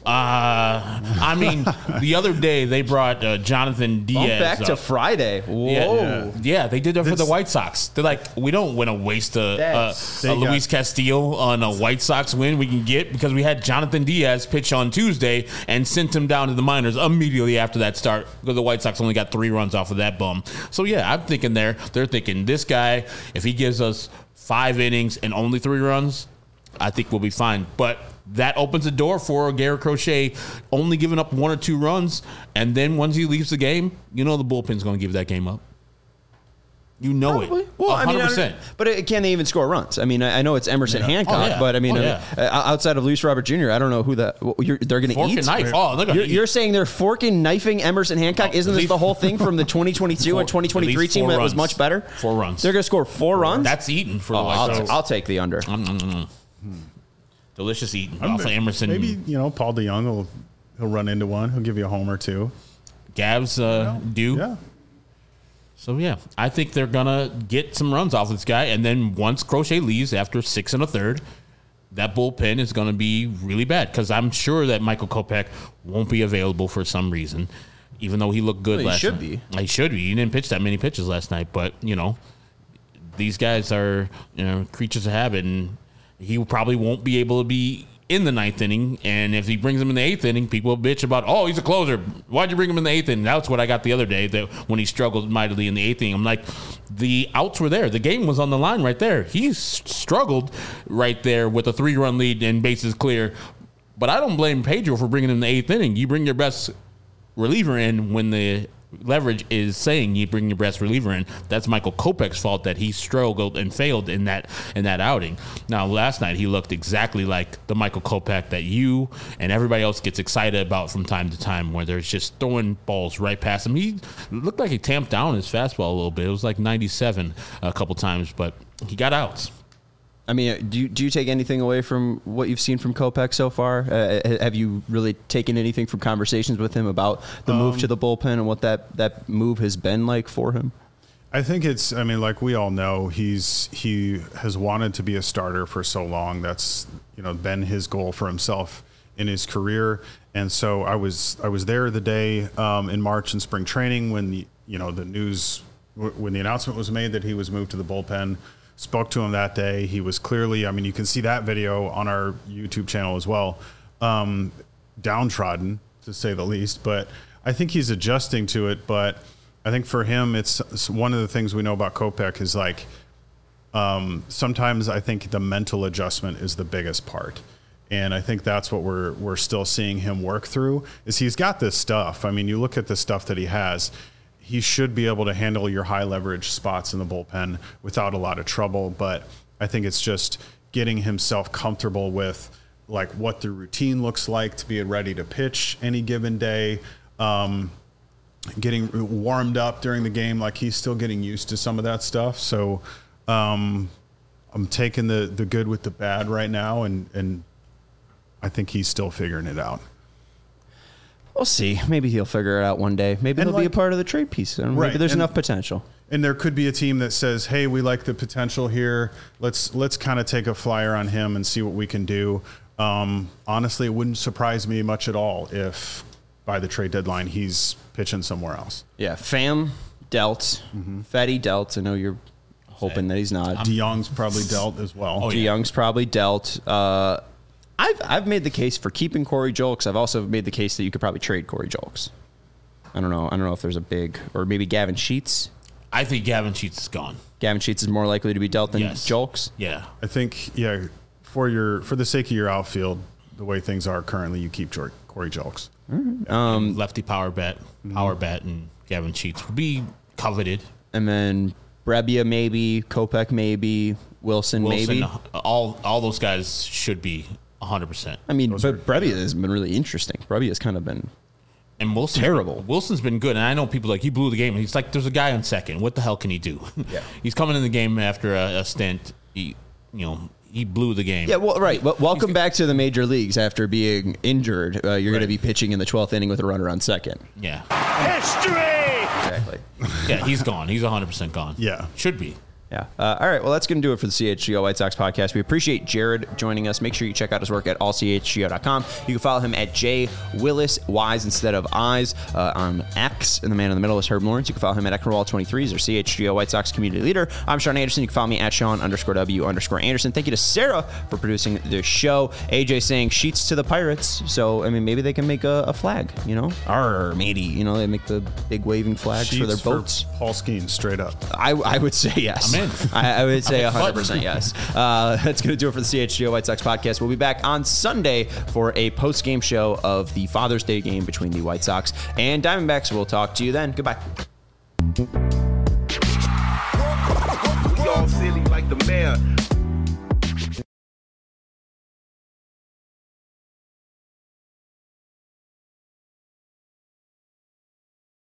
I mean, the other day they brought Jonathan Diaz back to Friday. Whoa. Yeah, they did that for the White Sox. They're like, we don't want to waste a Luis Castillo on a White Sox win we can get, because we had Jonathan Diaz pitch on Tuesday and sent him down to the minors immediately after that start, because the White Sox only got 3 runs off of that bum. So yeah, I'm thinking they're thinking, this guy, if he gives us 5 innings and only 3 runs, I think we'll be fine. But that opens the door for Garrett Crochet only giving up 1 or 2 runs, and then once he leaves the game, the bullpen's going to give that game up. You know Probably. It. Well, 100%. But can they even score runs? I mean, I know it's Emerson Hancock, but I mean, outside of Luis Robert Jr., I don't know who they're going to eat. And knife. Oh, they're gonna you're saying they're forking knifing Emerson Hancock? Isn't this the whole thing from the 2022 and 2023 team that was much better? 4 runs. They're going to score 4 runs? That's eating for the White Sox. I'll take the under. Delicious eating off of Emerson. Maybe, Paul DeYoung he'll run into one. He'll give you a homer too. Gavs do. Yeah. So, yeah, I think they're going to get some runs off this guy. And then once Crochet leaves after 6 1/3, that bullpen is going to be really bad, because I'm sure that Michael Kopech won't be available for some reason, even though he looked good last night. He should be. He didn't pitch that many pitches last night. But, these guys are creatures of habit, and he probably won't be able to be in the 9th inning, and if he brings him in the 8th inning, people bitch about, he's a closer. Why'd you bring him in the 8th inning? That's what I got the other day, that when he struggled mightily in the 8th inning. I'm like, the outs were there. The game was on the line right there. He struggled right there with a 3-run lead and bases clear. But I don't blame Pedro for bringing him in the 8th inning. You bring your best reliever in when the leverage is saying you bring your best reliever in. That's Michael Kopech's fault that he struggled and failed in that outing. Now, last night he looked exactly like the Michael Kopech that you and everybody else gets excited about from time to time, where there's just throwing balls right past him. He looked like he tamped down his fastball a little bit. It was like 97 a couple times, but he got outs. I mean, do you take anything away from what you've seen from Kopech so far? Have you really taken anything from conversations with him about the move to the bullpen and what that move has been like for him? I think it's, I mean, like we all know, he has wanted to be a starter for so long. That's, been his goal for himself in his career. And so I was there the day in March in spring training when the news, when the announcement was made that he was moved to the bullpen. Spoke to him that day. He was clearly, I mean, you can see that video on our YouTube channel as well, downtrodden, to say the least. But I think he's adjusting to it. But I think for him, it's one of the things we know about Kopech is like sometimes I think the mental adjustment is the biggest part. And I think that's what we're still seeing him work through is he's got this stuff. I mean, you look at the stuff that he has. He should be able to handle your high leverage spots in the bullpen without a lot of trouble. But I think it's just getting himself comfortable with like what the routine looks like to be ready to pitch any given day, getting warmed up during the game. Like he's still getting used to some of that stuff. So I'm taking the good with the bad right now. And I think he's still figuring it out. We'll see. Maybe he'll figure it out one day. Maybe he'll be a part of the trade piece. Maybe there's enough potential. And there could be a team that says, hey, we like the potential here. Let's kind of take a flyer on him and see what we can do. Honestly, it wouldn't surprise me much at all if by the trade deadline he's pitching somewhere else. Yeah, Pham dealt. Fetty dealt. I know you're hoping that he's not. DeYoung's probably dealt as well. DeYoung's probably dealt. I've made the case for keeping Corey Julks. I've also made the case that you could probably trade Corey Julks. I don't know if there's a big, or maybe Gavin Sheets. I think Gavin Sheets is gone. Gavin Sheets is more likely to be dealt than Julks. Yeah, I think for the sake of your outfield, the way things are currently, you keep Corey Julks. Lefty power bat, and Gavin Sheets would be coveted. And then Brebbia maybe, Kopech maybe, Wilson maybe. All those guys should be 100%. I mean, but Brebbia has been really interesting. Brebbia has kind of been terrible. Wilson's been good, and I know people like he blew the game. And he's like, there's a guy on second. What the hell can he do? Yeah. He's coming in the game after a stint. He blew the game. Yeah, well, right. Well, welcome back to the major leagues after being injured. You're going to be pitching in the 12th inning with a runner on second. Yeah. History! Exactly. Yeah, he's gone. He's 100% gone. Yeah. Should be. Yeah. All right. Well, that's going to do it for the CHGO White Sox podcast. We appreciate Jared joining us. Make sure you check out his work at allchgo.com. You can follow him at JWillisWise instead of Eyes on X. And the man in the middle is Herb Lawrence. You can follow him at Ecknerwall23. He's our CHGO White Sox community leader. I'm Sean Anderson. You can follow me at Sean_W_Anderson. Thank you to Sarah for producing the show. AJ saying Sheets to the Pirates. So, I mean, maybe they can make a flag, or maybe, they make the big waving flags Sheets for their boats. For Paul Skeens, straight up. I would say yes. I'm in. I would say 100% yes. That's going to do it for the CHGO White Sox podcast. We'll be back on Sunday for a post-game show of the Father's Day game between the White Sox and Diamondbacks. We'll talk to you then. Goodbye. We all silly like the mayor.